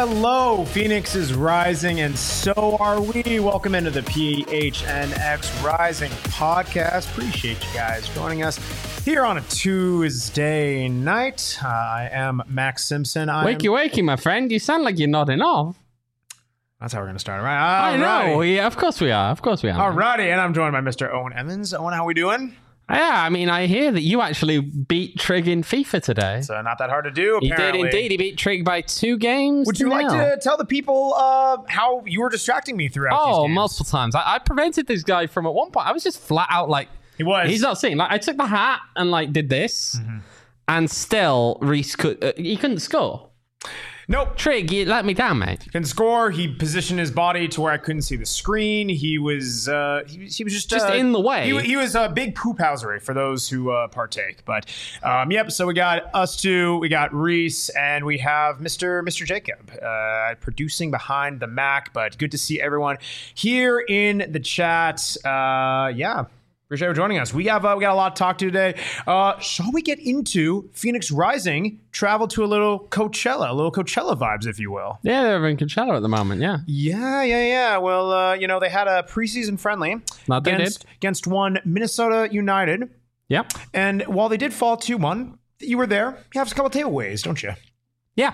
Hello, Phoenix is rising, and so are we. Welcome into the PHNX Rising podcast. Appreciate you guys joining us here on a Tuesday night. I am Max Simpson. Wakey, my friend. You sound like you're nodding off. That's how we're going to start, right? I know. Yeah, of course we are. Alrighty, and I'm joined by Mr. Owen Emmons. Owen, how we doing? Yeah, I mean, I hear that you actually beat Trig in FIFA today. So not that hard to do, apparently. He did indeed. He beat Trig by 2 games. Would you like to tell the people how you were distracting me throughout these games? Multiple times. I prevented this guy from, at one point, I was just flat out like... He's not seeing. Like, I took the hat and like did this, and still Reese he couldn't score. Nope. Trig, you let me down, mate. Couldn't score. He positioned his body to where I couldn't see the screen. He was he was just in the way. He was a big poophousery for those who partake. But yep. So we got us two. We got Reese, and we have Mr. Jacob producing behind the Mac. But good to see everyone here in the chat. Yeah. Appreciate you joining us. We got a lot to talk to today. Shall we get into Phoenix Rising? Travel to a little Coachella vibes, if you will. Yeah, they're in Coachella at the moment. Yeah. Yeah. Well, they had a preseason friendly against one Minnesota United. Yep. And while they did fall 2-1, you were there. You have a couple takeaways, don't you? Yeah.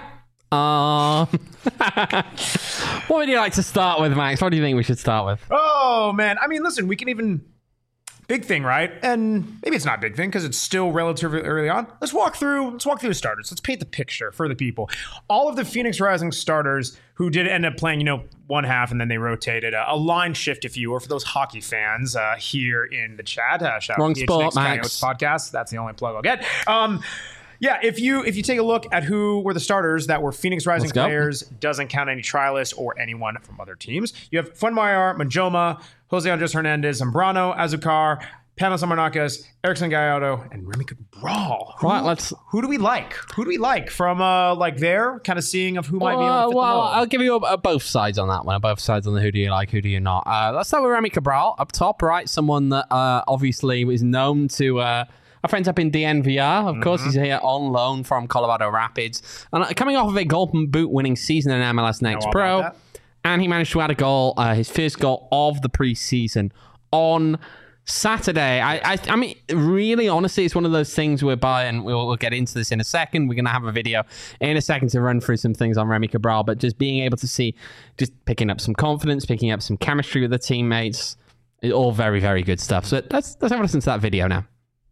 What would you like to start with, Max? What do you think we should start with? Oh man, I mean, listen, we can even. Big thing, right? And maybe it's not a big thing because it's still relatively early on. Let's walk through the starters. Let's paint the picture for the people. All of the Phoenix Rising starters who did end up playing, one half and then they rotated. A line shift, if you will, for those hockey fans here in the chat. Shout Wrong out to spot, Max podcast. That's the only plug I'll get. Yeah, if you take a look at who were the starters that were Phoenix Rising players, doesn't count any trialists or anyone from other teams. You have Fuenmayor, Majoma, Jose Andres Hernandez, Zambrano, Azucar, Panos Amarnacas, Erickson Gallardo, and Remy Cabral. Who do we like? Who do we like from there? Kind of seeing of who might be able to fit the mold. I'll give you both sides on that one. Both sides on the who do you like, who do you not. Let's start with Remy Cabral up top, right? Someone that obviously is known to... Our friends up in DNVR, of course, he's here on loan from Colorado Rapids. And coming off of a Golden Boot winning season in MLS Next Pro. And he managed to add a goal, his first goal of the preseason on Saturday. I mean, really, honestly, it's one of those things whereby, and we'll get into this in a second. We're going to have a video in a second to run through some things on Remy Cabral, but just being able to see, just picking up some confidence, picking up some chemistry with the teammates, all very, very good stuff. So let's have a listen to that video now.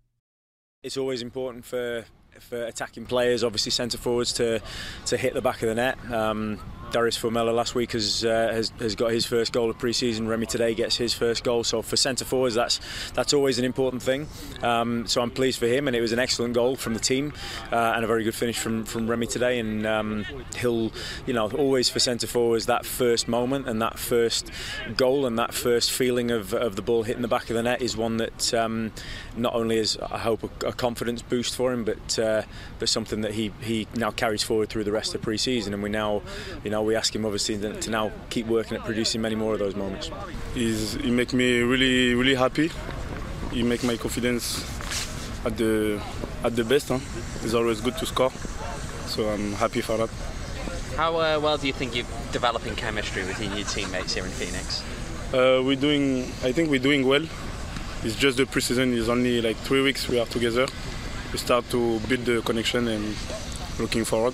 It's always important for attacking players, obviously centre forwards, to hit the back of the net. Darius Formella last week has got his first goal of pre-season. Remy today gets his first goal. So for centre forwards, that's always an important thing. So I'm pleased for him, and it was an excellent goal from the team and a very good finish from Remy today. And he'll, always for centre forwards, that first moment and that first goal and that first feeling of the ball hitting the back of the net is one that not only is, I hope, a confidence boost for him, but something that he now carries forward through the rest of pre-season. And we now, we ask him obviously to now keep working at producing many more of those moments. He make me really, really happy. He make my confidence at the best. It's always good to score, so I'm happy for that. How well do you think you're developing chemistry with your new teammates here in Phoenix? I think we're doing well. It's just the preseason is only like 3 weeks we are together. We start to build the connection and looking forward.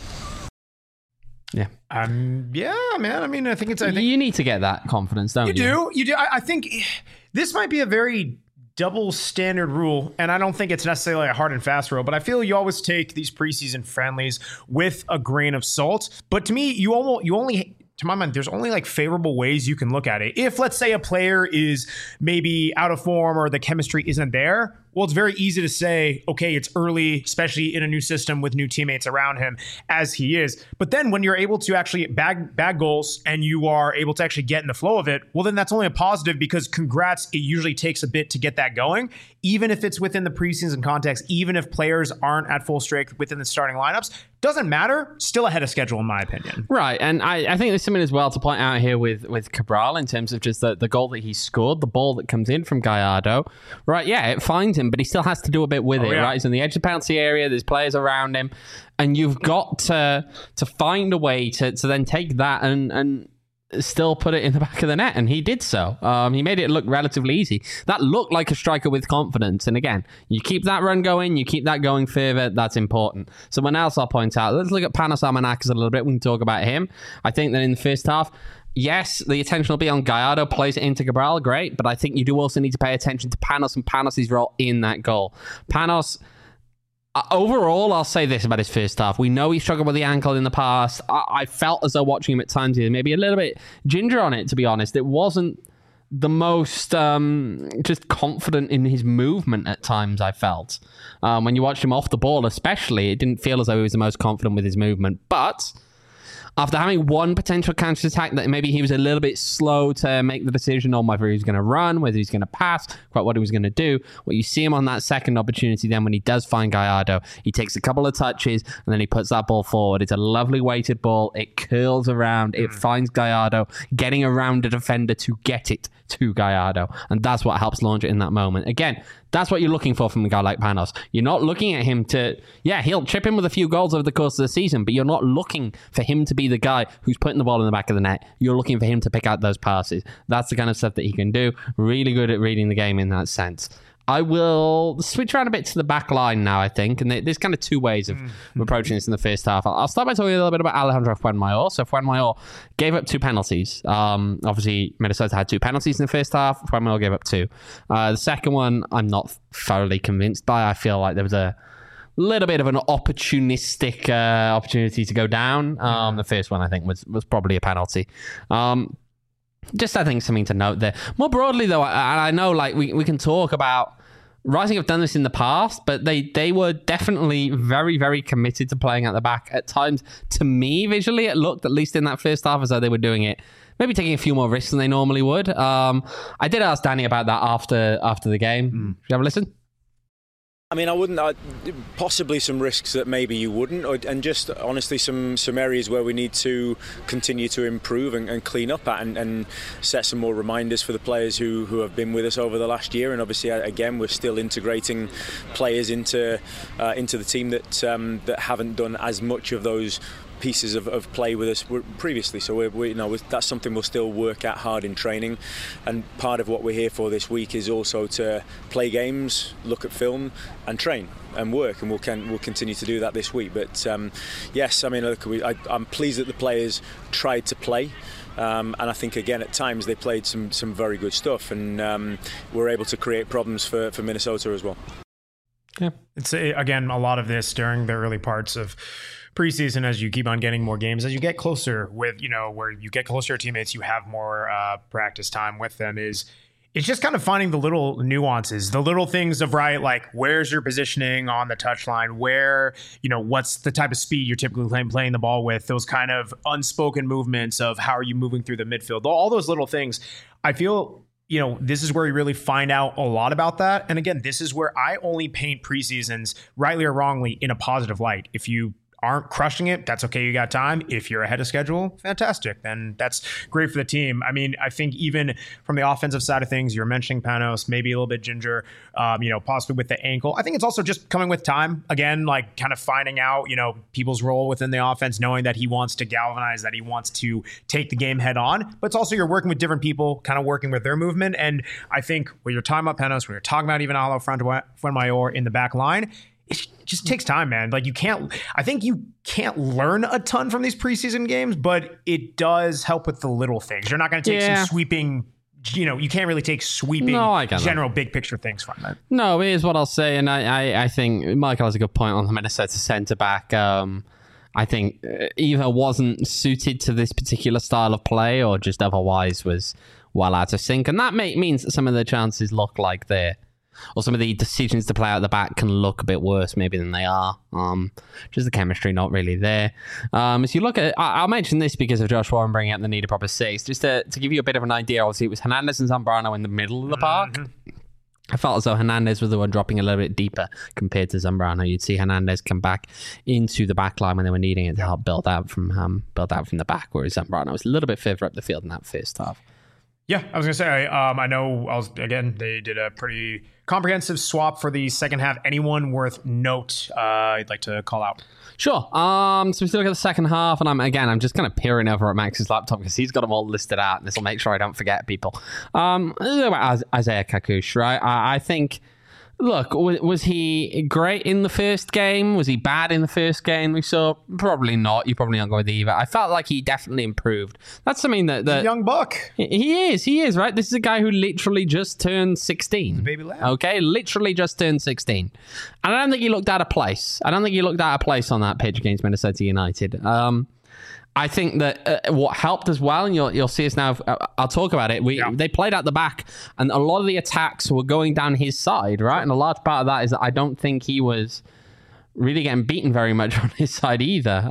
Yeah. Yeah, man. I mean, I think you need to get that confidence, don't you? You do. I think this might be a very double standard rule, and I don't think it's necessarily a hard and fast rule, but I feel you always take these preseason friendlies with a grain of salt. But to me, you only to my mind, there's only like favorable ways you can look at it. If, let's say, a player is maybe out of form or the chemistry isn't there, well, it's very easy to say, okay, it's early, especially in a new system with new teammates around him as he is. But then when you're able to actually bag goals and you are able to actually get in the flow of it, well, then that's only a positive because congrats, it usually takes a bit to get that going. Even if it's within the preseason context, even if players aren't at full strength within the starting lineups, doesn't matter, still ahead of schedule in my opinion. Right, and I think there's something as well to point out here with Cabral in terms of just the goal that he scored, the ball that comes in from Gallardo. Right, yeah, it finds him moving, but he still has to do a bit with it, right? He's on the edge of the penalty area. There's players around him, and you've got to find a way to then take that and still put it in the back of the net, and he did so. He made it look relatively easy. That looked like a striker with confidence, and again, you keep that run going, you keep that going further, that's important. Someone else I'll point out, let's look at Panos Armenakis a little bit. We can talk about him. I think that in the first half, yes, the attention will be on Gallardo, plays it into Cabral, great, but I think you do also need to pay attention to Panos and Panos' role in that goal. Panos, overall, I'll say this about his first half. We know he struggled with the ankle in the past. I felt as though watching him at times, he was maybe a little bit ginger on it, to be honest. It wasn't the most just confident in his movement at times, I felt. When you watched him off the ball especially, it didn't feel as though he was the most confident with his movement. But after having one potential counter-attack that maybe he was a little bit slow to make the decision on whether he was going to run, whether he's going to pass, quite what he was going to do. Well, you see him on that second opportunity then when he does find Gallardo. He takes a couple of touches and then he puts that ball forward. It's a lovely weighted ball. It curls around. It finds Gallardo, getting around a defender to get it to Gallardo. And that's what helps launch it in that moment. Again, that's what you're looking for from a guy like Panos. You're not looking at him to, he'll chip in with a few goals over the course of the season, but you're not looking for him to be the guy who's putting the ball in the back of the net. You're looking for him to pick out those passes. That's the kind of stuff that he can do. Really good at reading the game in that sense. I will switch around a bit to the back line now, I think. And there's kind of two ways of approaching this in the first half. I'll start by talking a little bit about Alejandro Fuenmayor. So Fuenmayor gave up 2 penalties. Obviously, Minnesota had 2 penalties in the first half. Fuenmayor gave up 2. The second one, I'm not thoroughly convinced by. I feel like there was a little bit of an opportunistic opportunity to go down. The first one, I think, was probably a penalty. Just, I think, something to note there. More broadly, though, I know like we can talk about Rising have done this in the past, but they were definitely very, very committed to playing at the back. At times, to me, visually, it looked, at least in that first half, as though they were doing it, maybe taking a few more risks than they normally would. I did ask Danny about that after the game. Should you have a listen? I mean, I wouldn't. Possibly some risks that maybe you wouldn't, and just honestly some areas where we need to continue to improve and clean up at, and set some more reminders for the players who have been with us over the last year. And obviously, again, we're still integrating players into the team that haven't done as much of those pieces of play with us previously, so we that's something we'll still work at hard in training. And part of what we're here for this week is also to play games, look at film, and train and work, and we'll continue to do that this week. But yes, I mean, look, I'm pleased that the players tried to play. And I think, again, at times they played some very good stuff, and were able to create problems for Minnesota as well. Yeah, it's again a lot of this during the early parts of preseason, as you keep on getting more games, as you get closer with, where you get closer to teammates, you have more practice time with them. It's just kind of finding the little nuances, the little things of, right, like where's your positioning on the touchline, where, what's the type of speed you're typically playing the ball with, those kind of unspoken movements of how are you moving through the midfield, all those little things. I feel, this is where you really find out a lot about that. And again, this is where I only paint preseasons, rightly or wrongly, in a positive light. If you aren't crushing it, that's okay. You got time. If you're ahead of schedule, fantastic. Then that's great for the team. I mean, I think even from the offensive side of things, you're mentioning Panos, maybe a little bit ginger, possibly with the ankle. I think it's also just coming with time. Again, like kind of finding out, people's role within the offense, knowing that he wants to galvanize, that he wants to take the game head on. But it's also you're working with different people, kind of working with their movement. And I think when you're talking about Panos, when you're talking about even Alejandro Fuenmayor in the back line, it just takes time, man. Like I think you can't learn a ton from these preseason games, but it does help with the little things. You're not going to take some sweeping, you can't really take sweeping general big picture things from it. No, here's what I'll say. And I think Michael has a good point on the Minnesota center back. I think either wasn't suited to this particular style of play or just otherwise was well out of sync. And that means that some of the chances look like or some of the decisions to play out the back can look a bit worse maybe than they are. Just the chemistry not really there. As you look at, I'll mention this because of Josh Warren bringing up the need of proper 6. Just to give you a bit of an idea, obviously it was Hernandez and Zambrano in the middle of the park. I felt as though Hernandez was the one dropping a little bit deeper compared to Zambrano. You'd see Hernandez come back into the back line when they were needing it to help build out from the back, whereas Zambrano was a little bit further up the field in that first half. Yeah, I was gonna say. I know. They did a pretty comprehensive swap for the second half. Anyone worth note? I'd like to call out. Sure. So we still look at the second half, and I'm just kind of peering over at Max's laptop because he's got them all listed out, and this will make sure I don't forget people. About Isaiah Kakush, right? I think. Look, was he great in the first game? Was he bad in the first game we saw? Probably not. You probably not go with either. I felt like he definitely improved. That's something that young buck. He is, right? This is a guy who literally just turned 16. Baby lad. Okay, literally just turned 16. And I don't think he looked out of place. on that pitch against Minnesota United. I think that what helped as well, and you'll see us now, I'll talk about it, they played out the back, and a lot of the attacks were going down his side, right? And a large part of that is that I don't think he was really getting beaten very much on his side either.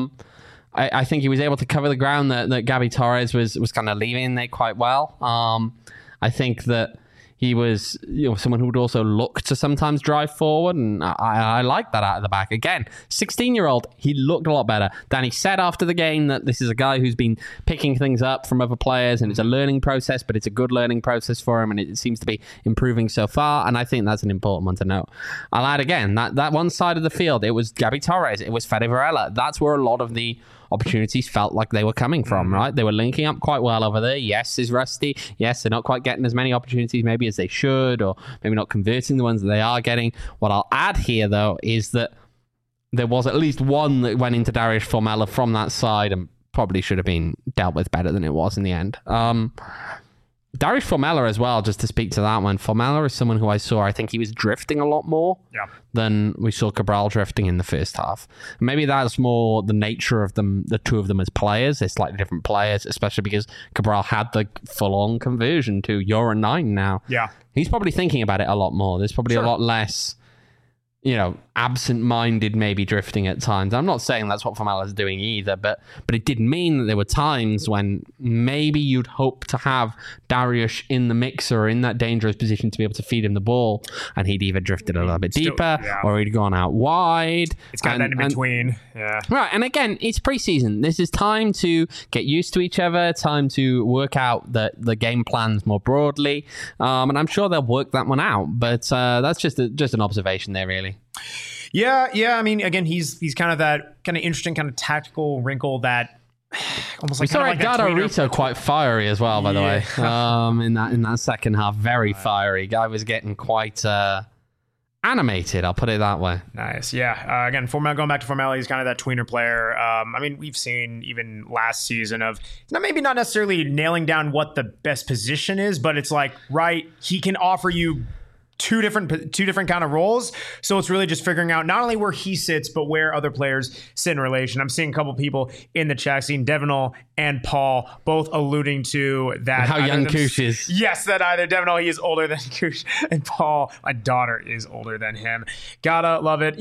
I think he was able to cover the ground that Gabby Torres was kind of leaving there quite well. I think that he was someone who would also look to sometimes drive forward, and I like that out of the back. Again, 16-year-old, he looked a lot better. Danny said after the game that this is a guy who's been picking things up from other players, and it's a learning process, but it's a good learning process for him, and it seems to be improving so far, and I think that's an important one to note. I'll add again, that one side of the field, it was Gabby Torres, it was Fede Varela. That's where a lot of the opportunities felt like they were coming from, right? They were linking up quite well over there. Yes, is rusty. Yes, they're not quite getting as many opportunities maybe as they should, or maybe not converting the ones that they are getting. What I'll add here, though, is that there was at least one that went into Darius Formella from that side and probably should have been dealt with better than it was in the end. Darius Formella as well, just to speak to that one. Formella is someone who I think he was drifting a lot more than we saw Cabral drifting in the first half. Maybe that's more the nature of them, the two of them as players. They're slightly different players, especially because Cabral had the full-on conversion to you're a 9 now. Yeah. He's probably thinking about it a lot more. There's probably a lot less, absent-minded maybe drifting at times. I'm not saying that's what Formella's doing either, but it did mean that there were times when maybe you'd hope to have Darius in the mix or in that dangerous position to be able to feed him the ball, and he'd either drifted a little bit deeper or he'd gone out wide. It's kind of that in between. Yeah. Right, and again, it's preseason. This is time to get used to each other, time to work out the game plans more broadly, and I'm sure they'll work that one out, but that's just an observation there, really. Yeah. I mean, again, he's kind of that kind of interesting kind of tactical wrinkle that almost like. We saw Edgardo Rito quite fiery as well, by the way. In that second half, very fiery. Guy was getting quite animated. I'll put it that way. Nice. Yeah. Again, going back to Formella, he's kind of that tweener player. I mean, we've seen even last season of maybe not necessarily nailing down what the best position is, but it's like he can offer you two different kind of roles. So it's really just figuring out not only where he sits, but where other players sit in relation. I'm seeing a couple people in the chat, seeing Devenol and Paul both alluding to that. How young Kush is. Yes, that either Devenol, he is older than Kush, and Paul, my daughter, is older than him. Gotta love it.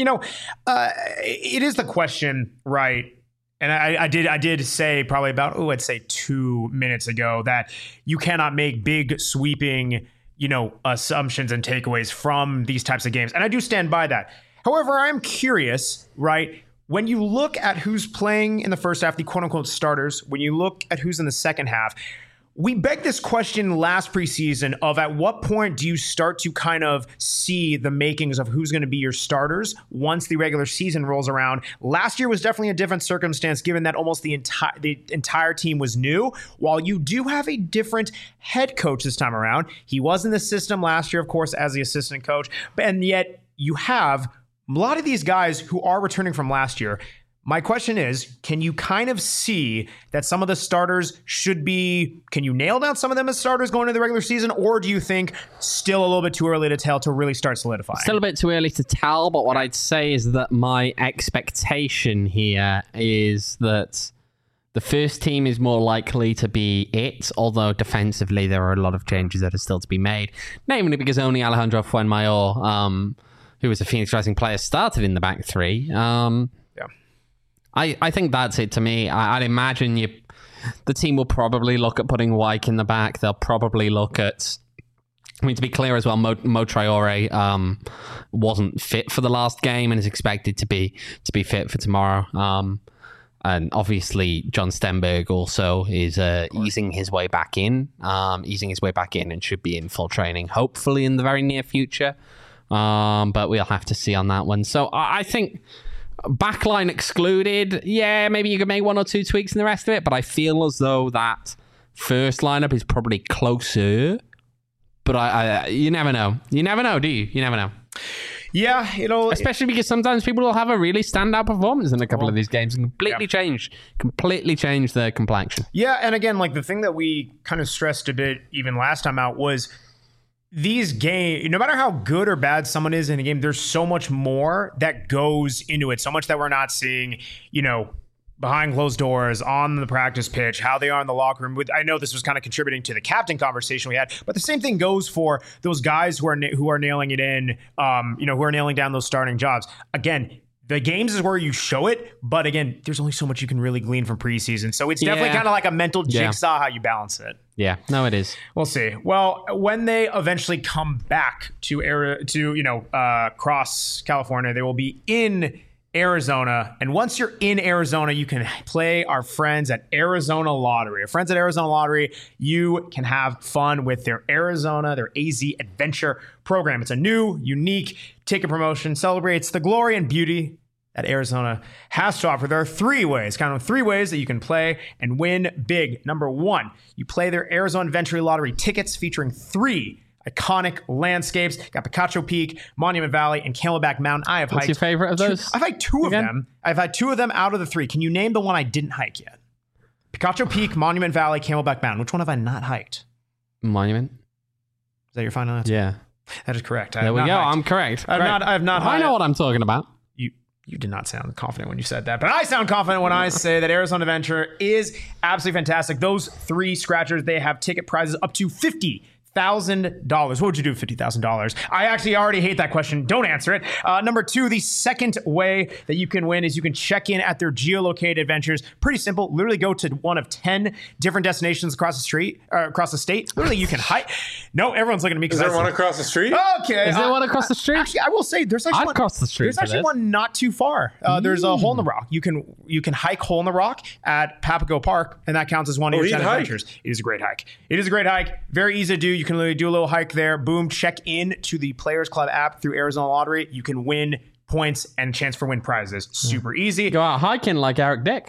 It is the question, right? And I did say probably about, I'd say 2 minutes ago that you cannot make big sweeping assumptions and takeaways from these types of games. And I do stand by that. However, I'm curious, right? When you look at who's playing in the first half, the quote unquote starters, when you look at who's in the second half, we begged this question last preseason of at what point do you start to kind of see the makings of who's going to be your starters once the regular season rolls around. Last year was definitely a different circumstance given that almost the entire team was new. While you do have a different head coach this time around, he was in the system last year, of course, as the assistant coach, and yet you have a lot of these guys who are returning from last year. My question is, can you kind of see that some of the starters can you nail down some of them as starters going into the regular season, or do you think still a little bit too early to tell to really start solidifying? Still a bit too early to tell, but what I'd say is that my expectation here is that the first team is more likely to be it, although defensively there are a lot of changes that are still to be made, namely because only Alejandro Fuenmayor, who was a Phoenix Rising player, started in the back three. I think that's it to me. I'd imagine the team will probably look at putting Wyke in the back. They'll probably look at... to be clear as well, Mo Traore wasn't fit for the last game and is expected to be fit for tomorrow. And obviously, John Stenberg also is easing his way back in, and should be in full training, hopefully in the very near future. But we'll have to see on that one. So I think backline excluded, yeah, maybe you could make one or two tweaks in the rest of it, but I feel as though that first lineup is probably closer. But you never know. You never know, do you? You never know. Yeah, especially because sometimes people will have a really standout performance in a couple of these games and completely change their complexion. Yeah, and again, like the thing that we kind of stressed a bit even last time out was these games, no matter how good or bad someone is in a game, there's so much more that goes into it. So much that we're not seeing, behind closed doors, on the practice pitch, how they are in the locker room. I know this was kind of contributing to the captain conversation we had, but the same thing goes for those guys who are nailing it in, who are nailing down those starting jobs. Again, the games is where you show it, but again, there's only so much you can really glean from preseason. So it's definitely kind of like a mental jigsaw how you balance it. Yeah, no, it is. We'll see. Well, when they eventually come back to cross California, they will be in Arizona. And once you're in Arizona, you can play our friends at Arizona Lottery. Our friends at Arizona Lottery, you can have fun with their AZ Adventure program. It's a new, unique ticket promotion, celebrates the glory and beauty that Arizona has to offer. There are three ways that you can play and win big. Number one, you play their Arizona Adventure Lottery tickets featuring 3 iconic landscapes. Got Picacho Peak, Monument Valley, and Camelback Mountain. What's your favorite of those? I've hiked 2 of them. I've had 2 of them out of the 3. Can you name the one I didn't hike yet? Picacho Peak, Monument Valley, Camelback Mountain. Which one have I not hiked? Monument. Is that your final answer? Yeah. That is correct. There we go. Hiked. I'm correct. I have not hiked. I know what I'm talking about. You did not sound confident when you said that, but I sound confident when I say that Arizona Adventure is absolutely fantastic. Those 3 scratchers, they have ticket prizes up to $50,000. What would you do with $50,000? I actually already hate that question. Don't answer it. Number 2, the second way that you can win is you can check in at their geolocated adventures. Pretty simple. Literally go to one of 10 different destinations across the state. Literally, you can hike. No, everyone's looking at me. Is there one across the street? Okay. Is there one across the street? Actually, I will say there's actually crossed the street. There's actually one not too far. There's a Hole in the Rock. You can hike Hole in the Rock at Papago Park, and that counts as one of your 10 adventures. It is a great hike. Very easy to do. You can literally do a little hike there. Boom, check in to the Players Club app through Arizona Lottery. You can win points and chance for win prizes. Super easy. Go out hiking like Eric Dick.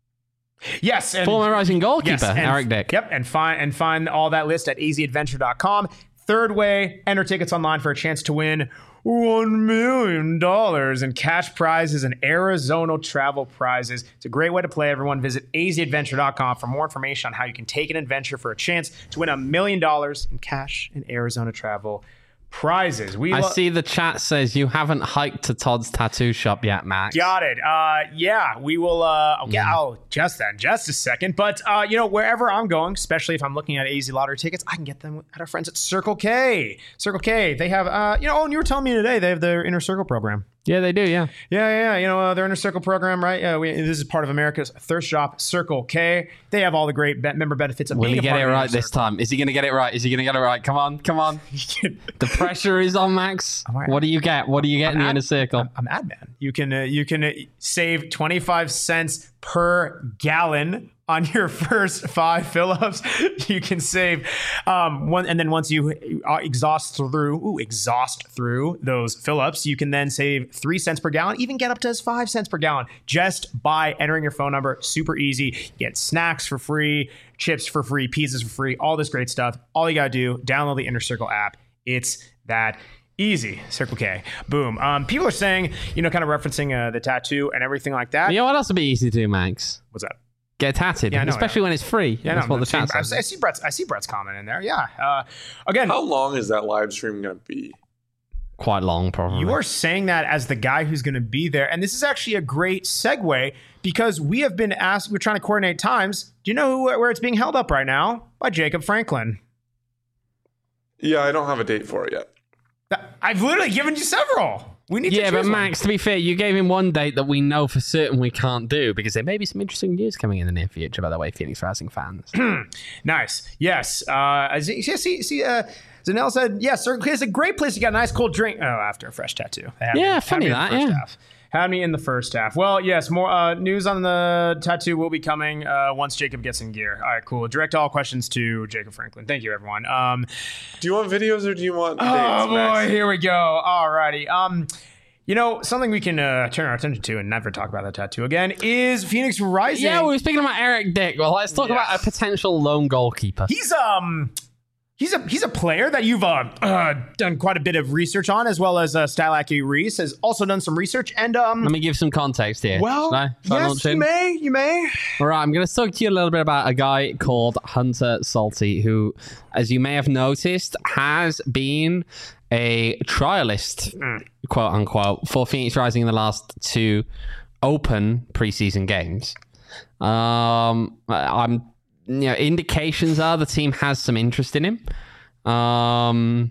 Yes. And former rising goalkeeper, Eric Dick. Yep. And find all that list at azadventure.com. Third way, enter tickets online for a chance to win $1 million in cash prizes and Arizona travel prizes. It's a great way to play, everyone. Visit azadventure.com for more information on how you can take an adventure for a chance to win $1 million in cash and Arizona travel prizes. I see the chat says you haven't hiked to Todd's tattoo shop yet, Max. Got it. Yeah, we will. I'll just a second. But wherever I'm going, especially if I'm looking at AZ Lottery tickets, I can get them at our friends at Circle K. Circle K. They have. And you were telling me today they have their Inner Circle program. Yeah, they do. Yeah. Their Inner Circle program, right? This is part of America's thirst shop, Circle K. They have all the great member benefits of Will being he get it right this time? Is he going to get it right? Come on. The pressure is on, Max. What do you get? What do you get in the Inner Circle? I'm ad man. You can save 25 cents per gallon on your first 5 fill-ups. You can save one, and then once you exhaust through those fill-ups, you can then save 3 cents per gallon, even get up to 5 cents per gallon just by entering your phone number. Super easy. You get snacks for free, chips for free, pizzas for free, all this great stuff. All you gotta do, download the Inner Circle app. It's that easy. Circle K. Boom. People are saying, kind of referencing the tattoo and everything like that. You know what else would be easy to do, Max? What's that? Get tatted, especially when it's free. Yeah, that's what the chat says. I see Brett's comment in there. Yeah. Again, how long is that live stream going to be? Quite long, probably. You are saying that as the guy who's going to be there, and this is actually a great segue because we have been asked. We're trying to coordinate times. Do you know where it's being held up right now? By Jacob Franklin. Yeah, I don't have a date for it yet. I've literally given you several. We need to choose but one. Max, to be fair, you gave him one date that we know for certain we can't do because there may be some interesting news coming in the near future, by the way, Phoenix Rising fans. Nice. Yes. Zanel said, yes, Circle K is a great place to get a nice cold drink. Oh, after a fresh tattoo. Funny that, yeah. Had me in the first half. Well, yes, more news on the tattoo will be coming once Jacob gets in gear. All right, cool. Direct all questions to Jacob Franklin. Thank you, everyone. Do you want videos or do you want dates, Oh, boy, Max? here we go. All righty. Something we can turn our attention to and never talk about that tattoo again is Phoenix Rising. Yeah, we were speaking about Eric Dick. Well, let's talk about a potential lone goalkeeper. He's a player that you've done quite a bit of research on, as well as Stylacky Reese has also done some research. And Let me give some context here. well, Should I yes, launch in? you may. All right, I'm going to talk to you a little bit about a guy called Hunter Salty, who, as you may have noticed, has been a trialist, quote unquote, for Phoenix Rising in the last 2 open preseason games. Indications are the team has some interest in him. I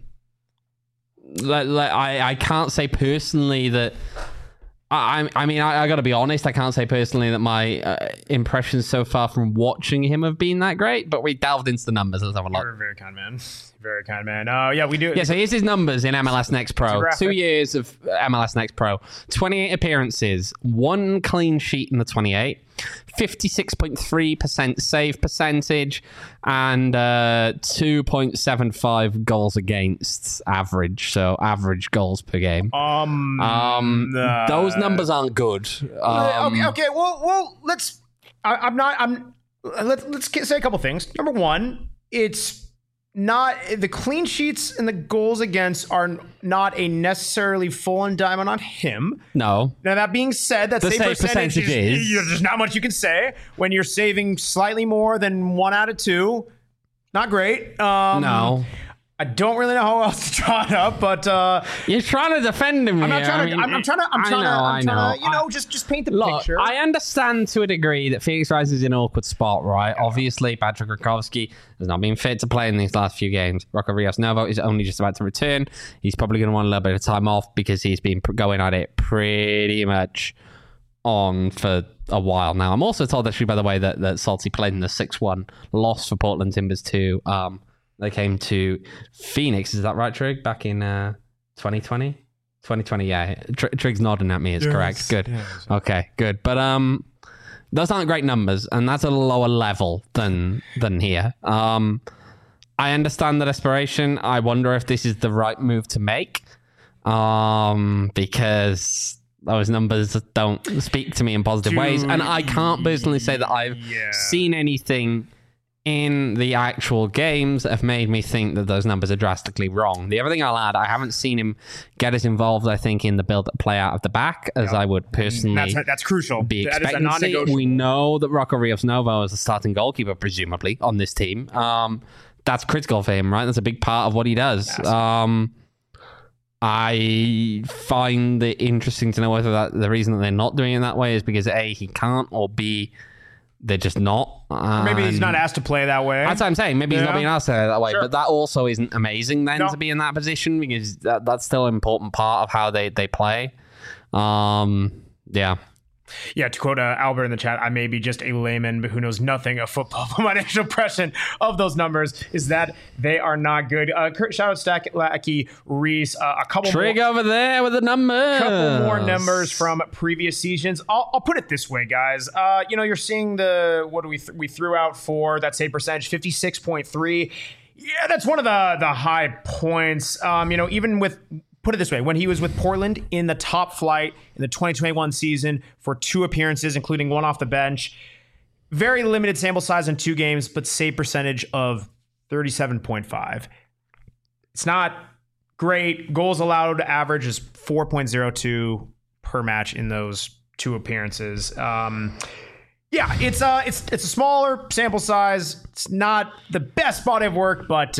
can't say personally that. I got to be honest. I can't say personally that my impressions so far from watching him have been that great. But we delved into the numbers. Let's have a look. You're a very kind man. Very kind man. Yeah, we do. Yeah, so here's his numbers in MLS Next Pro. graphic. 2 years of MLS Next Pro. 28 appearances, 1 clean sheet in the 28, 56.3% save percentage, and 2.75 goals against average. So average goals per game. Those numbers aren't good. Okay. Well, let's say a couple things. Number one, it's not the clean sheets and the goals against are not a necessarily full indictment on him. No. Now that being said, that The save save percentage percentage is- there's not much you can say when you're saving slightly more than 1 out of 2. Not great. No. I don't really know how else to draw it up, but You're trying to defend him I'm here. not trying to. I'm trying to. Just paint the Look, picture. I understand to a degree that Phoenix Rising is in an awkward spot, right? Obviously, Patrick Rakowski has not been fit to play in these last few games. Rocco Rios Novo is only just about to return. He's probably going to want a little bit of time off because he's been going at it pretty much on for a while now. I'm also told, actually, by the way, that Salty played in the 6-1 loss for Portland Timbers 2. They came to Phoenix, is that right, Trig? Back in 2020? 2020, yeah. Trig's nodding at me, it's correct. Good. Yes. Okay, good. But those aren't great numbers, and that's a lower level than here. I understand the desperation. I wonder if this is the right move to make, because those numbers don't speak to me in positive ways, and I can't personally say that I've seen anything in the actual games that have made me think that those numbers are drastically wrong. The other thing I'll add, I haven't seen him get as involved, I think, in the build-up play out of the back as I would personally that's crucial. be That is a expecting to see. non-negotiable. We know that Rocco Rios Novo is the starting goalkeeper, presumably, on this team. That's critical for him, right? That's a big part of what he does. I find it interesting to know whether the reason that they're not doing it that way is because A, he can't, or B, they're just not. Maybe he's not asked to play that way. That's what I'm saying. Maybe he's not being asked to play that way. Sure. But that also isn't amazing then to be in that position, because that's still an important part of how they play. Yeah. Yeah, to quote Albert in the chat, I may be just a layman but who knows nothing of football, but my initial impression of those numbers is that they are not good. Shout out Stylacky Reese. A couple Trig more, over there with the numbers. couple more numbers from previous seasons. I'll put it this way, guys. You're seeing what do we threw out for that save percentage, 56.3. Yeah, that's one of the high points. Even with, put it this way, when he was with Portland in the top flight in the 2021 season for 2 appearances, including 1 off the bench, very limited sample size in 2 games, but save percentage of 37.5. It's not great. Goals allowed average is 4.02 per match in those 2 appearances. It's a smaller sample size. It's not the best body of work, but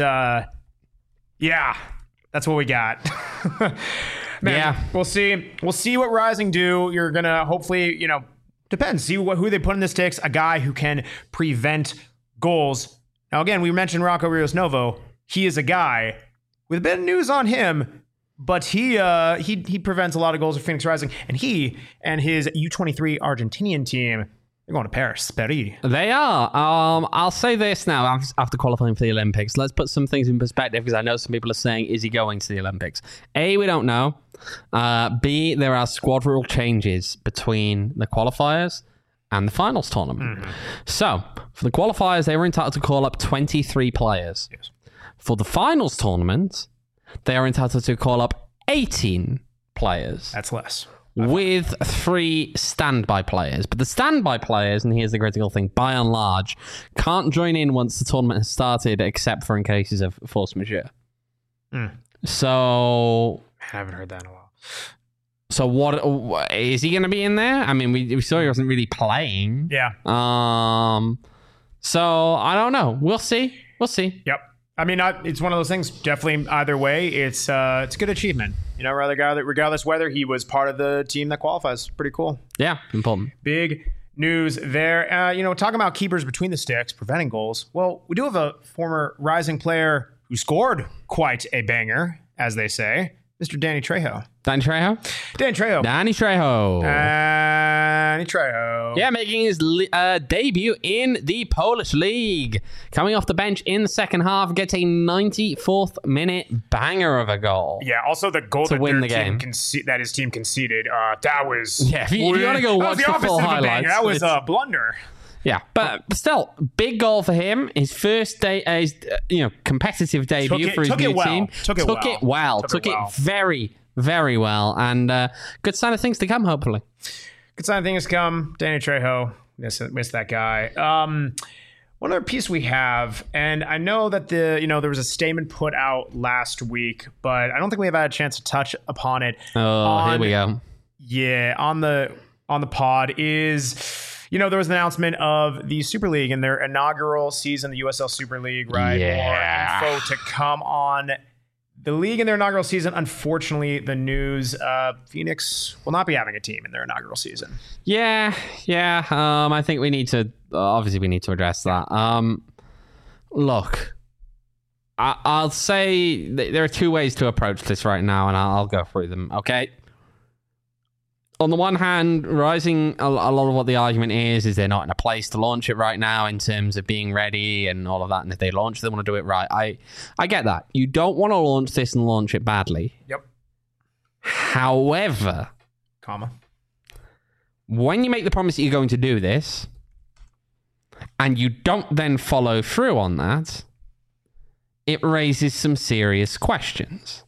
that's what we got. Man, we'll see. We'll see what Rising do. You're gonna hopefully, depends. See who they put in the sticks. A guy who can prevent goals. Now, again, we mentioned Rocco Rios Novo. He is a guy with a bit of news on him, but he prevents a lot of goals for Phoenix Rising, and he and his U23 Argentinian team They're going to Paris. They are. I'll say this now after qualifying for the Olympics. Let's put some things in perspective because I know some people are saying, is he going to the Olympics? A, we don't know. B, there are squad rule changes between the qualifiers and the finals tournament. So, for the qualifiers, they were entitled to call up 23 players. Yes. For the finals tournament, they are entitled to call up 18 players. That's less. With 3 standby players. But the standby players, and here's the critical thing, by and large, can't join in once the tournament has started, except for in cases of force majeure. So... I haven't heard that in a while. So what is he going to be in there? I mean, we saw he wasn't really playing. Yeah. So I don't know. We'll see. Yep. I mean, it's one of those things. Definitely, either way, it's a good achievement. You know, regardless whether he was part of the team that qualifies. Pretty cool. Yeah, important. Big news there. Talking about keepers between the sticks, preventing goals. Well, we do have a former Rising player who scored quite a banger, as they say, Mr. Danny Trejo. Danny Trejo. Yeah, making his debut in the Polish League. Coming off the bench in the second half, gets a 94th minute banger of a goal. Yeah, also the goal to that win their the team game. that his team conceded, that was... Yeah, if you want to go watch the full highlights. That was a blunder. Yeah, but still, big goal for him. His first day, competitive debut for his new team. Took it well. Very, very well. And good sign of things to come, hopefully. Good sign of things to come. Danny Trejo. Miss that guy. One other piece we have, and I know that there was a statement put out last week, but I don't think we have had a chance to touch upon it. Here we go. Yeah, on the pod is... there was an announcement of the Super League and their inaugural season, the USL Super League, right? Yeah. More info to come on the league in their inaugural season. Unfortunately, the news, Phoenix will not be having a team in their inaugural season. Yeah. I think we need to address that. Look, I'll say there are 2 ways to approach this right now, and I'll go through them, okay? On the one hand, Rising, a lot of what the argument is they're not in a place to launch it right now in terms of being ready and all of that. And if they launch, they want to do it right. I get that. You don't want to launch this and launch it badly. Yep. However, when you make the promise that you're going to do this and you don't then follow through on that, it raises some serious questions.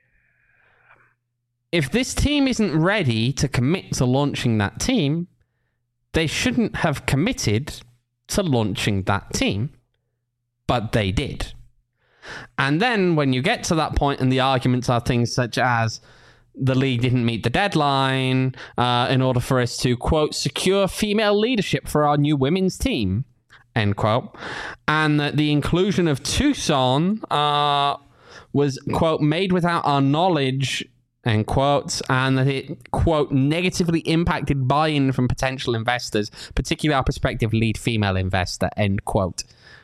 If this team isn't ready to commit to launching that team, they shouldn't have committed to launching that team. But they did. And then when you get to that point and the arguments are things such as the league didn't meet the deadline in order for us to, quote, secure female leadership for our new women's team, end quote, and that the inclusion of Tucson was, quote, made without our knowledge, end quote, and that it, quote, negatively impacted buy-in from potential investors, particularly our prospective lead female investor, end quote.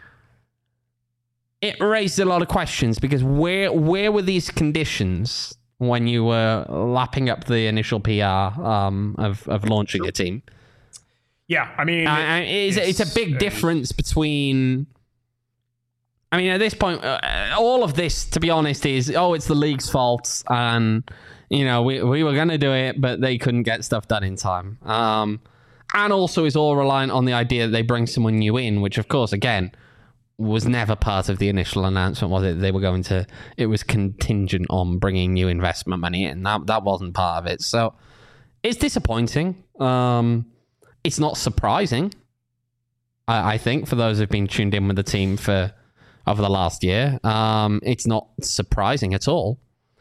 It raised a lot of questions because where were these conditions when you were lapping up the initial PR of launching a team? Yeah, I mean... it's a big difference between... I mean, at this point, all of this, to be honest, is, it's the league's fault, and, we were going to do it, but they couldn't get stuff done in time. And also is all reliant on the idea that they bring someone new in, which, of course, again, was never part of the initial announcement, was it? It was contingent on bringing new investment money in. That wasn't part of it. So it's disappointing. It's not surprising, I think, for those who've been tuned in with the team over the last year. It's not surprising at all.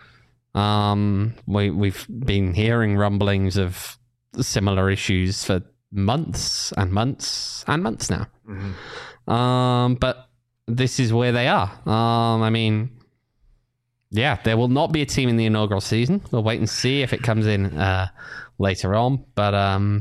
We've been hearing rumblings of similar issues for months and months and months now. Mm-hmm. But this is where they are. There will not be a team in the inaugural season. We'll wait and see if it comes in later on. But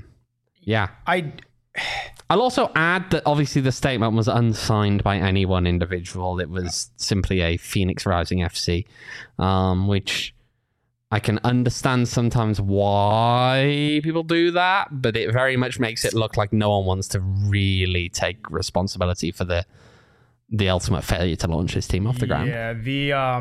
I'll also add that obviously the statement was unsigned by any one individual. It was simply a Phoenix Rising FC, which I can understand sometimes why people do that, but it very much makes it look like no one wants to really take responsibility for the ultimate failure to launch his team off the ground. Yeah,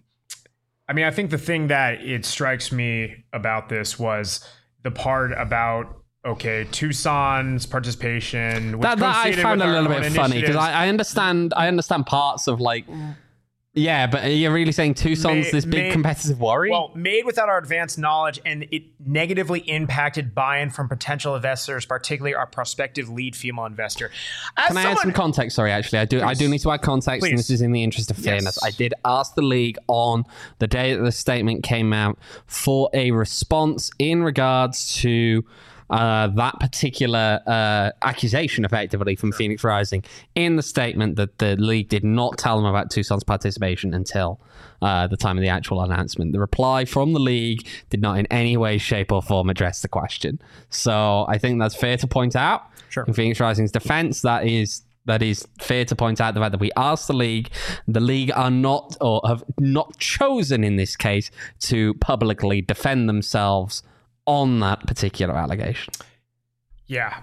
I mean, I think the thing that it strikes me about this was the part about, okay, Tucson's participation. Which that I found a little bit funny because I understand parts of like, yeah, but you're really saying Tucson's this big competitive worry? Well, made without our advanced knowledge, and it negatively impacted buy-in from potential investors, particularly our prospective lead female investor. Can I add some context? Sorry, actually, I do need to add context, and this is in the interest of fairness. Yes. I did ask the league on the day that the statement came out for a response in regards to that particular accusation, effectively, from Phoenix Rising in the statement that the league did not tell them about Tucson's participation until the time of the actual announcement. The reply from the league did not in any way, shape, or form address the question. So I think that's fair to point out. Sure. In Phoenix Rising's defense, that is fair to point out the fact that we asked the league. The league are not, or have not chosen in this case, to publicly defend themselves on that particular allegation. Yeah.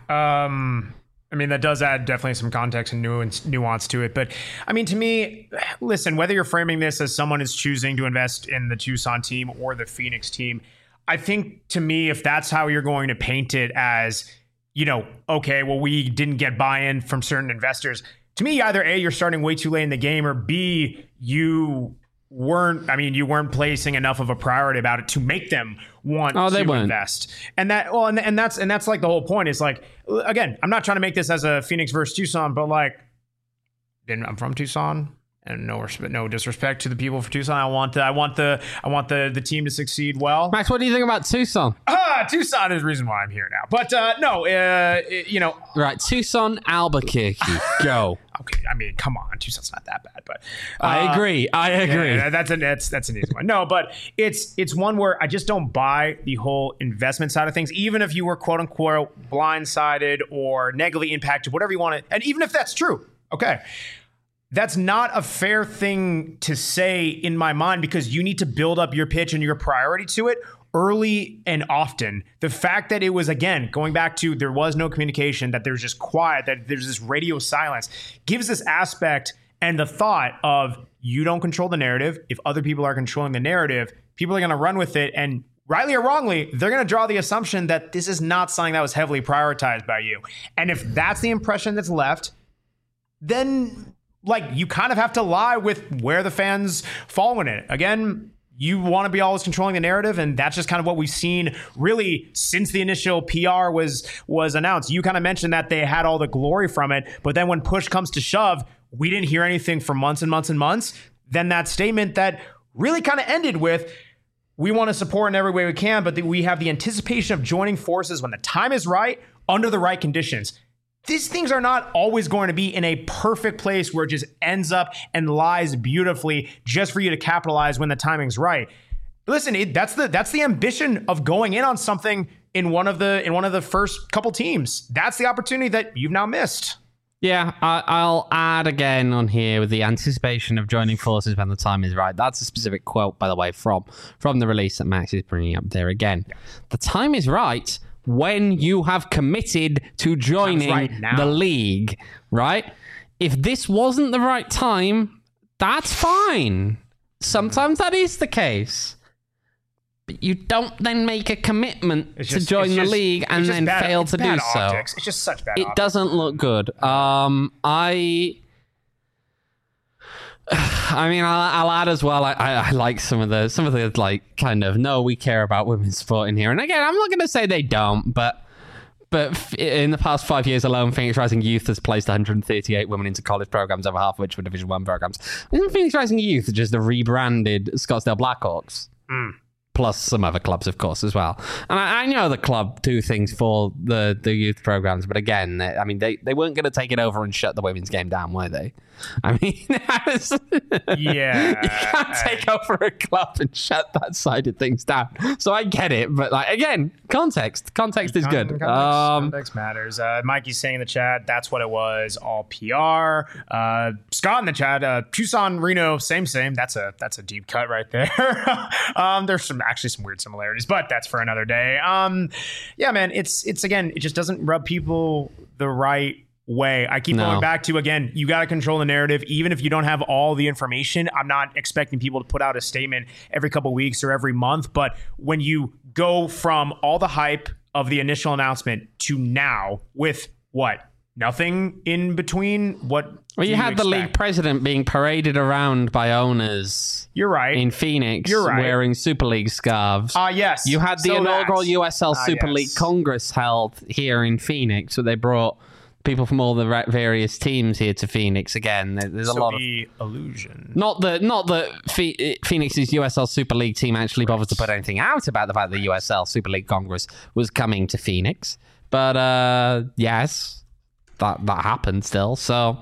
I mean, that does add definitely some context and nuance to it. But I mean, to me, listen, whether you're framing this as someone is choosing to invest in the Tucson team or the Phoenix team, I think to me, if that's how you're going to paint it as, you know, okay, well, we didn't get buy-in from certain investors. To me, either A, you're starting way too late in the game, or B, you weren't placing enough of a priority about it to make them want to invest. And that's like the whole point is like, again, I'm not trying to make this as a Phoenix versus Tucson, but like, I'm from Tucson, and no disrespect to the people for Tucson. I want the team to succeed well. Max, what do you think about Tucson? Tucson is the reason why I'm here now. But right, Tucson, Albuquerque, go. Okay, I mean, come on, Tucson's not that bad, but I agree. Yeah, that's an easy one. No, but it's one where I just don't buy the whole investment side of things. Even if you were quote unquote blindsided or negatively impacted, whatever you want to, and even if that's true, okay. That's not a fair thing to say in my mind, because you need to build up your pitch and your priority to it early and often. The fact that it was, again, going back to there was no communication, that there's just quiet, that there's this radio silence, gives this aspect and the thought of you don't control the narrative. If other people are controlling the narrative, people are going to run with it. And rightly or wrongly, they're going to draw the assumption that this is not something that was heavily prioritized by you. And if that's the impression that's left, then like you kind of have to lie with where the fans fall in it. Again, you want to be always controlling the narrative, and that's just kind of what we've seen really since the initial PR was announced. You kind of mentioned that they had all the glory from it, but then when push comes to shove, we didn't hear anything for months and months and months. Then that statement that really kind of ended with, we want to support in every way we can, but we have the anticipation of joining forces when the time is right, under the right conditions. These things are not always going to be in a perfect place where it just ends up and lies beautifully just for you to capitalize when the timing's right. Listen, that's the ambition of going in on something in one of the first couple teams. That's the opportunity that you've now missed. Yeah, I'll add again on here with the anticipation of joining forces when the time is right. That's a specific quote, by the way, from the release that Max is bringing up there again. Yeah. The time is right when you have committed to joining the league, right? If this wasn't the right time, that's fine. Sometimes that is the case. But you don't then make a commitment to join the league and then fail to do so. It's just such bad optics. It doesn't look good. I mean, I'll add as well. I like some of the like kind of no, we care about women's sport in here. And again, I'm not going to say they don't, but in the past 5 years alone, Phoenix Rising Youth has placed 138 women into college programs, over half of which were Division 1 programs. Isn't Phoenix Rising Youth just the rebranded Scottsdale Blackhawks? Plus some other clubs, of course, as well. And I know the club do things for the youth programs, but again, they weren't going to take it over and shut the women's game down, were they? I mean, yeah, you can't take over a club and shut that side of things down. So I get it, but like again, context is good. Context matters. Mikey's saying in the chat, that's what it was, all PR. Scott in the chat, Tucson, Reno, same. That's a deep cut right there. There's some actually some weird similarities, but that's for another day. Yeah, man, it's again, it just doesn't rub people the right way. I keep going back to, again, you got to control the narrative. Even if you don't have all the information, I'm not expecting people to put out a statement every couple weeks or every month. But when you go from all the hype of the initial announcement to now with what? Nothing in between? Well, you had the league president being paraded around by owners. You're right. In Phoenix, You're right. wearing Super League scarves. Yes. You had the inaugural USL Super League Congress held here in Phoenix, so they brought people from all the various teams here to Phoenix again. There's a lot of illusion. Not that Phoenix's USL Super League team actually bothered to put anything out about the fact that the USL Super League Congress was coming to Phoenix, but yes, that happened still. So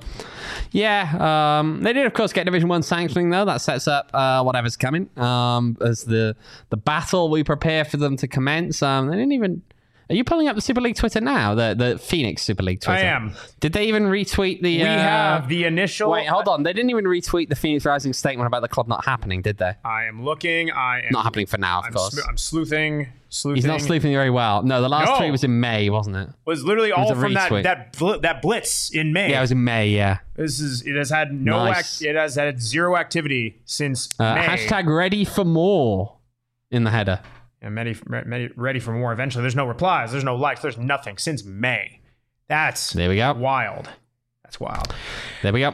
yeah, they did of course get Division 1 sanctioning though. That sets up whatever's coming as the battle we prepare for them to commence. They didn't even. Are you pulling up the Super League Twitter now? The Phoenix Super League Twitter? I am. Did they even retweet the... We have the initial... Wait, hold on. They didn't even retweet the Phoenix Rising statement about the club not happening, did they? I am looking. Not happening for now, of course. I'm sleuthing. He's not sleuthing very well. No, the last tweet was in May, wasn't it? It was literally all from retweet. that blitz in May. Yeah, it was in May, yeah. It has had it has had zero activity since May. Hashtag ready for more in the header. And ready for more eventually. There's no replies. There's no likes. There's nothing since May. There we go. Wild. That's wild. There we go.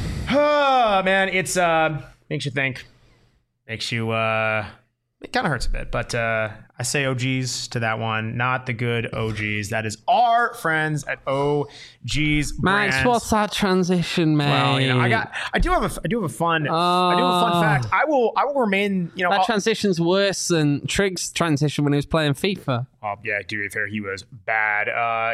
Oh, man, it's makes you think. Makes you it kind of hurts a bit, but I say OGs to that one, not the good OGs. That is our friends at OGs Brands. Max, what's that transition, mate? Well, I do have a fun fact. I will remain, that transition's worse than Trig's transition when he was playing FIFA. Oh, yeah, to be fair, he was bad.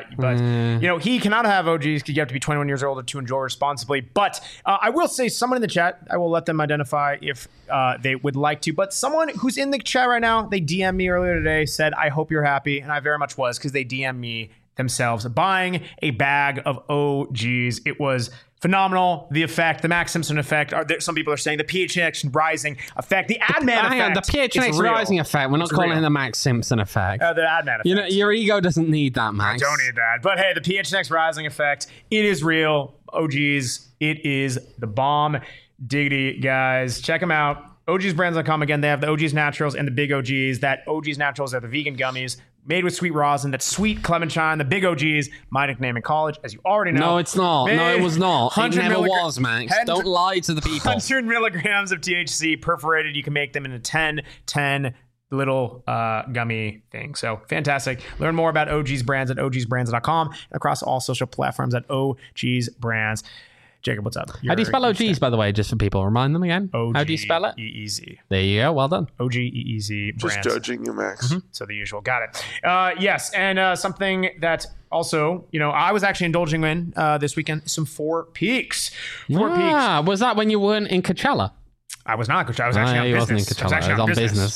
But, he cannot have OGs because you have to be 21 years old to enjoy responsibly. But I will say someone in the chat, I will let them identify if they would like to. But someone who's in the chat right now, they DM'd me earlier today, said, I hope you're happy. And I very much was, because they DM'd me themselves buying a bag of OGs. It was phenomenal. The effect, the Max Simpson effect. Some people are saying the PHNX Rising effect, the Adman effect. The PHNX Rising effect. We're not calling it the Max Simpson effect. The Adman effect. Your ego doesn't need that, Max. I don't need that. But hey, the PHNX Rising effect, it is real. OGs, it is the bomb. Diggity, guys. Check them out. OGsBrands.com. Again, they have the OGs Naturals and the Big OGs. That OGs Naturals are the vegan gummies made with sweet rosin. That's sweet clementine. The Big OGs, my nickname in college, as you already know. No, it's not. No, it was not. It never was, Max. Don't lie to the people. 100 milligrams of THC perforated. You can make them in a 10 little gummy thing. So fantastic. Learn more about OGs Brands at ogsbrands.com and across all social platforms at OGs Brands. Jacob, what's up? How do you spell OGs, by the way, just for people? Remind them again. How do you spell it? OGEEZ. There you go. Well done. OGEEZ Brands. Just judging you, Max. So the usual. Got it. Yes, and something that also, I was actually indulging in this weekend, some Four Peaks. Four Peaks. Was that when you weren't in Coachella? I was not Coachella. I was actually on business. I was on business.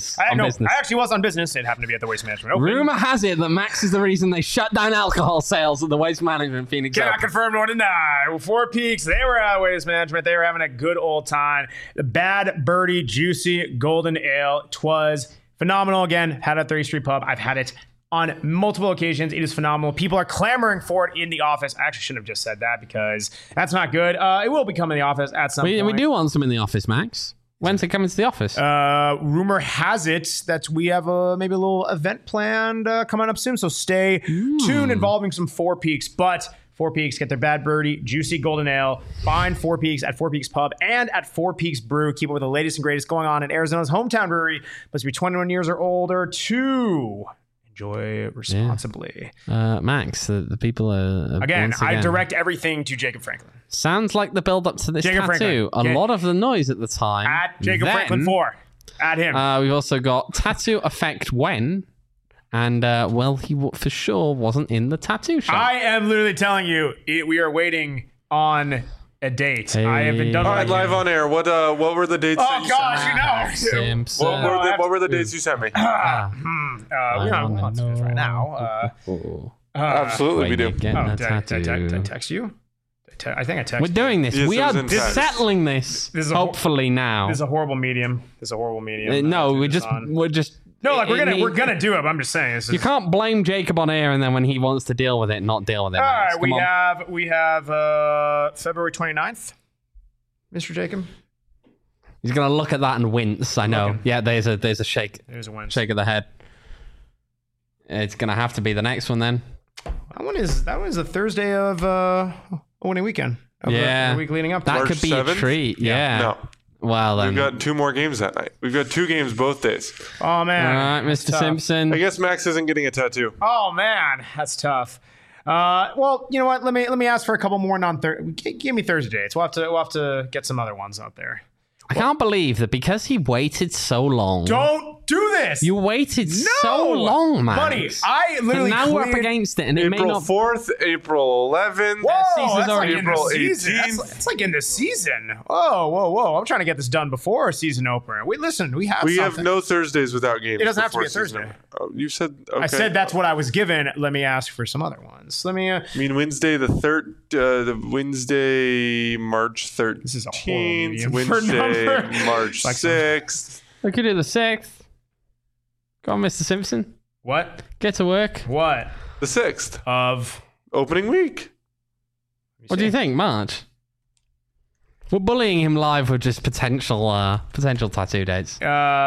I actually was on business. It happened to be at the Waste Management Open. Rumor has it that Max is the reason they shut down alcohol sales at the Waste Management Phoenix Open. Cannot confirm nor deny. Well, Four Peaks, they were at Waste Management. They were having a good old time. The Bad Birdie Juicy Golden Ale. Twas phenomenal. Again, had it at 30th Street Pub. I've had it on multiple occasions. It is phenomenal. People are clamoring for it in the office. I actually shouldn't have just said that because that's not good. It will be coming in the office at some point. We do want some in the office, Max. When's it coming to the office? Rumor has it that we have maybe a little event planned coming up soon. So stay tuned involving some Four Peaks. But Four Peaks, get their Bad Birdie Juicy Golden Ale. Find Four Peaks at Four Peaks Pub and at Four Peaks Brew. Keep up with the latest and greatest going on in Arizona's hometown brewery. Must be 21 years or older to enjoy responsibly. Yeah. Max, the people are... Again, I direct everything to Jacob Franklin. Sounds like the build-up to this Jacob tattoo. Franklin. A lot of the noise at the time. At Jacob Franklin 4. At him. We've also got Tattoo Effect When. And, he for sure wasn't in the tattoo shop. I am literally telling you, we are waiting on a date. Hey. I have been done. All right, live on air. What were the dates? Oh gosh, Simpson. What were the dates you sent me? We don't want to do this right now. Absolutely, we do. Did I text you? I texted. We're doing this. Yes, we it was are in text. settling this. This is a hopefully now. This is a horrible medium. No, to we're do just this on. we're just. No, like it we're gonna do it. But I'm just saying. This is, You can't blame Jacob on air and then when he wants to deal with it, not deal with it. all Max. right, Come on. we have February 29th, Mr. Jacob. He's gonna look at that and wince. I know. Looking. Yeah, there's a shake There's a win. of the head. It's gonna have to be the next one then. That was the Thursday of opening weekend. Of Yeah. the week leading up to That it. March could be 7th? a treat. Yeah. No. Well then. We've got 2 more games that night. We've got 2 games both days. Oh All man, right, that's Mr. tough. Simpson. I guess Max isn't getting a tattoo. Oh man, that's tough. Well, you know what? Let me ask for a couple more give me Thursday dates. We'll have to get some other ones out there. I can't believe that because he waited so long. Don't do this. You waited so long, man. buddy. I literally now we're up cleared- against it, and it may April not. 4th, April 11th. Whoa, season's that's like already in the April season. 18th. That's like in the season. Whoa! I'm trying to get this done before our season opener. We have We something. have no Thursdays without games. It doesn't have to be before a Thursday. season. Oh, you said okay. I said that's what I was given. Let me ask for some other ones. Let me. I mean Wednesday the Wednesday March 13th. This is a horrible medium for Wednesday number. March Like 6th. We could do the 6th. Go on, Mr. Simpson. What? Get to work. What? The 6th. Of. Opening week. What do you think, March? We're bullying him live with just potential tattoo dates.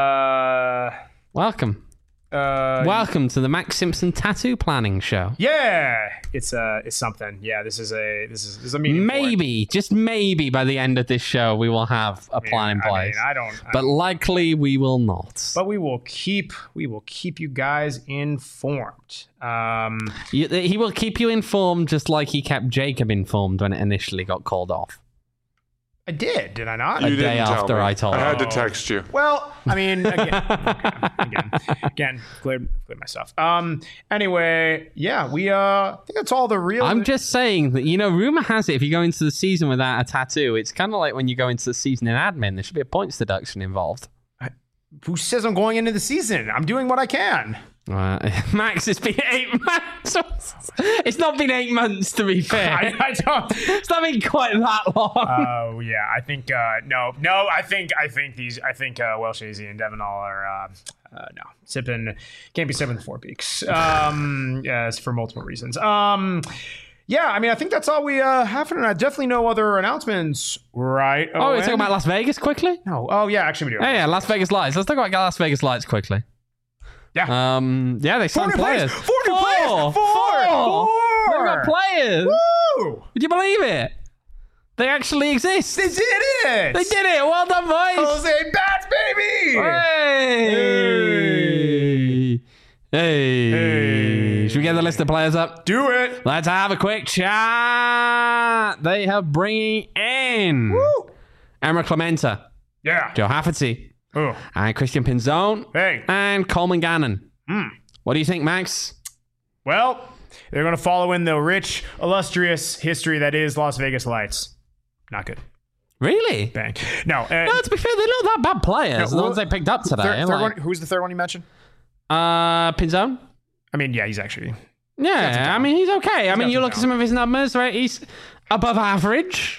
Welcome. Welcome to the Max Simpson Tattoo Planning Show. Yeah, it's something. Yeah, this is a meeting. Maybe, just maybe, by the end of this show, we will have a plan in place. I don't. But likely we will not. But we will keep you guys informed. He will keep you informed, just like he kept Jacob informed when it initially got called off. I did I not? A You day didn't tell after me. I told I had to him. text you. Well, I mean, again, cleared myself. Anyway, yeah, I think that's all the real. I'm just saying that, rumor has it if you go into the season without a tattoo, it's kind of like when you go into the season in admin. There should be a points deduction involved. Who says I'm going into the season? I'm doing what I can. Max, it's been 8 months. It's not been 8 months, to be fair. I don't. It's not been quite that long. Oh yeah, I think no. I think Welsh Hazy and Devon all are no sipping. Can't be sipping the Four Peaks. Yes, for multiple reasons. Yeah, I mean, I think that's all we have for tonight. Definitely no other announcements, right? Oh, we're Owen? talking about Las Vegas quickly? No. Oh yeah, actually we do. Yeah, Las Vegas Lights. Let's talk about Las Vegas Lights quickly. Yeah. Yeah, they signed new players. players. Four new players. Four. They've got players. Woo! Would you believe it? They actually exist. They did it. They did it. Well done, boys. Jose Bats, baby. Hey. Should we get the list of players up? Do it. Let's have a quick chat. They are bringing in Woo. Emma Clementa, Yeah. Joe Hafferty, Oh. and Christian Pinzone, Hey. and Coleman Gannon. What do you think, Max? Well, they're going to follow in the rich, illustrious history that is Las Vegas Lights. Not good. Really? Bang. No. No, to be fair, they're not that bad players. The ones they picked up today. Third like, one, who's the third one you mentioned? Pinzone? I mean, yeah, he's actually. Yeah, I mean, he's okay. I mean, got you some look at some of his numbers, right? He's above average.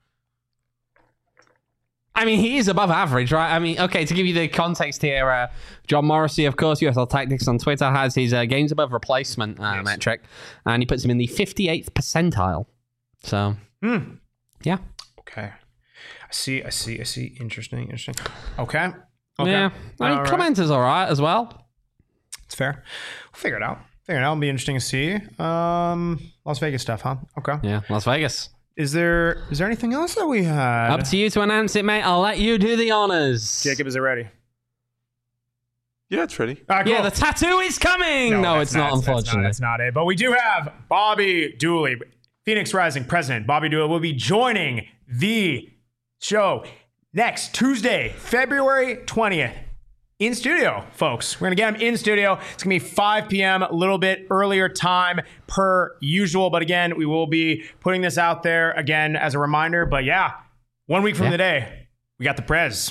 I mean, he is above average, right? I mean, okay, to give you the context here, John Morrissey, of course, USL Tactics on Twitter, has his games above replacement metric, and he puts him in the 58th percentile. So, yeah. Okay. I see. Interesting. Okay. Yeah. I mean, Clementa's all right as well. It's fair. We'll figure it out. It'll be interesting to see. Las Vegas stuff, huh? Okay. Yeah, Las Vegas. Is there anything else that we had? Up to you to announce it, mate. I'll let you do the honors. Jacob, is it ready? Yeah, it's ready. All right, cool. Yeah, the tattoo is coming. No, that's it's not, unfortunately. That's not it. But we do have Bobby Dooley, Phoenix Rising president. Bobby Dooley will be joining the show next Tuesday, February 20th. In studio, folks. We're going to get him in studio. It's going to be 5 p.m., a little bit earlier time per usual. But again, we will be putting this out there again as a reminder. But yeah, 1 week from today, we got the Prez.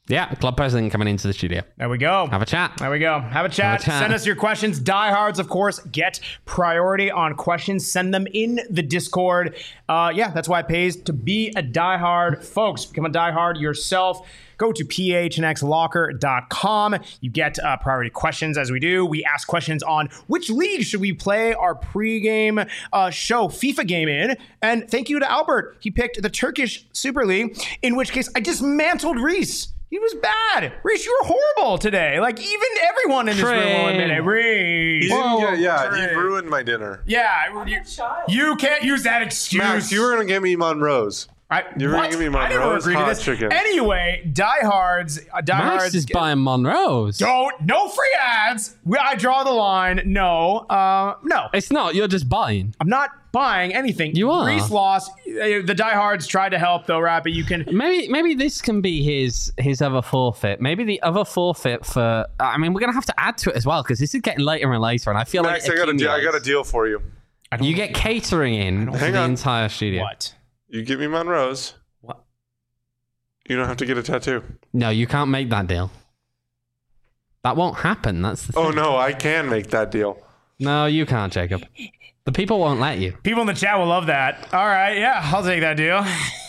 Yeah, club president coming into the studio. There we go. Have a chat. There we go. Have a chat. Send us your questions. Diehards, of course, get priority on questions. Send them in the Discord. That's why it pays to be a diehard. Folks, become a diehard yourself. Go to phnxlocker.com. You get priority questions as we do. We ask questions on which league should we play our pregame show FIFA game in. And thank you to Albert. He picked the Turkish Super League, in which case I dismantled Reese. He was bad. Reese, you were horrible today. Like, even everyone in this room will admit it. Reese. He ruined my dinner. Yeah. You can't use that excuse. Max, you were going to give me Monroe's. You were going to give me Monroe's hot chicken. Anyway, diehards. Max is buying Monroe's. No free ads. I draw the line. No. It's not. You're just buying. I'm not buying anything. You are. Reese lost. The diehards tried to help, though, Rappy. You can... Maybe this can be his other forfeit. Maybe the other forfeit for... I mean, we're going to have to add to it as well, because this is getting later and later, and I feel Max, like... Max, I got a deal for you. You get catering in to the entire studio. What? You give me Monroe's. What? You don't have to get a tattoo. No, you can't make that deal. That won't happen. That's the thing. Oh, no, I can make that deal. No, you can't, Jacob. The people won't let you. People in the chat will love that. All right, yeah, I'll take that deal.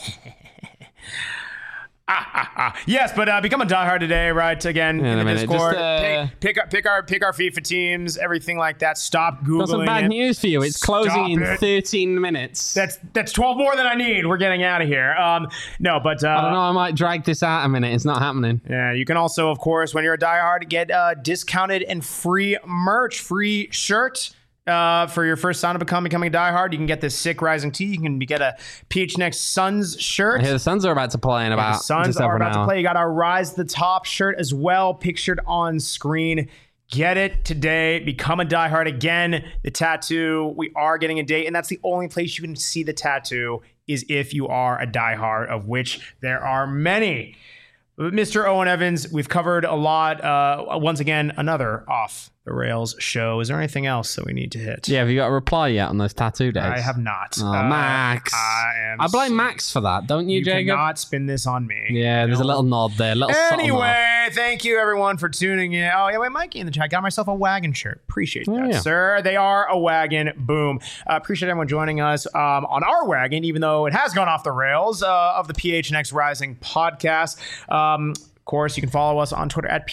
Yes, but become a diehard today, right? Again, in the Discord. Pick our FIFA teams, everything like that. Stop Googling. Got some bad news for you. It's closing in 13 minutes. That's 12 more than I need. We're getting out of here. I don't know. I might drag this out a minute. It's not happening. Yeah, you can also, of course, when you're a diehard, get discounted and free merch, free shirt. For your first sign of becoming a diehard, you can get this sick Rising tee. You can get a PHNX Suns shirt. The Suns are about to play in about. The Suns are about to play. You got our Rise to the Top shirt as well, pictured on screen. Get it today. Become a diehard again. The tattoo, we are getting a date, and that's the only place you can see the tattoo is if you are a diehard, of which there are many. Mr. Owen Evans, we've covered a lot. Once again, another Off the Rails show. Is there anything else that we need to hit? Yeah, have you got a reply yet on those tattoo days? I have not. Oh, Max. I blame Max for that, don't you, Jacob? You cannot spin this on me. Yeah, there's a little nod there. Anyway, thank you, everyone, for tuning in. Oh, yeah, wait, Mikey in the chat. Got myself a wagon shirt. Appreciate that, sir. They are a wagon. Boom. Appreciate everyone joining us on our wagon, even though it has gone off the rails of the PHNX Rising podcast. Of course, you can follow us on Twitter at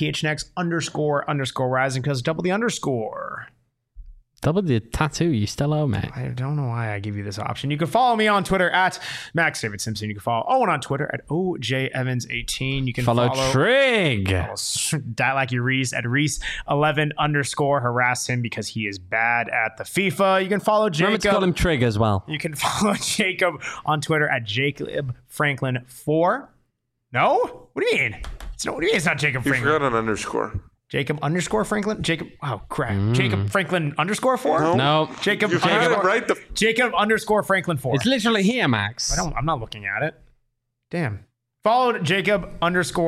PHNX__rising because double the underscore. Double the tattoo, you still owe me. I don't know why I give you this option. You can follow me on Twitter at Max David Simpson. You can follow Owen on Twitter at OJEvans18. You can follow Trig. Die Like You Reese at Reese11_ harass him because he is bad at the FIFA. You can follow Jacob. Remember to call him Trig as well. You can follow Jacob on Twitter at JacobFranklin4. No? What do you mean? What do you mean it's not Jacob Franklin? You forgot an underscore. Jacob_Franklin? Jacob. Oh, crap. Jacob Franklin _4? No. Jacob. You had it right. Jacob _Franklin4. It's literally here, Max. I'm not looking at it. Damn. Followed Jacob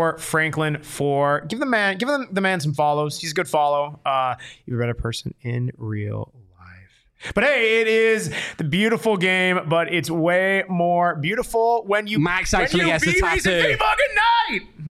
_Franklin4. Give the man some follows. He's a good follow. You're a better person in real life. But hey, it is the beautiful game, but it's way more beautiful when you Max actually gets a tattoo. Good night.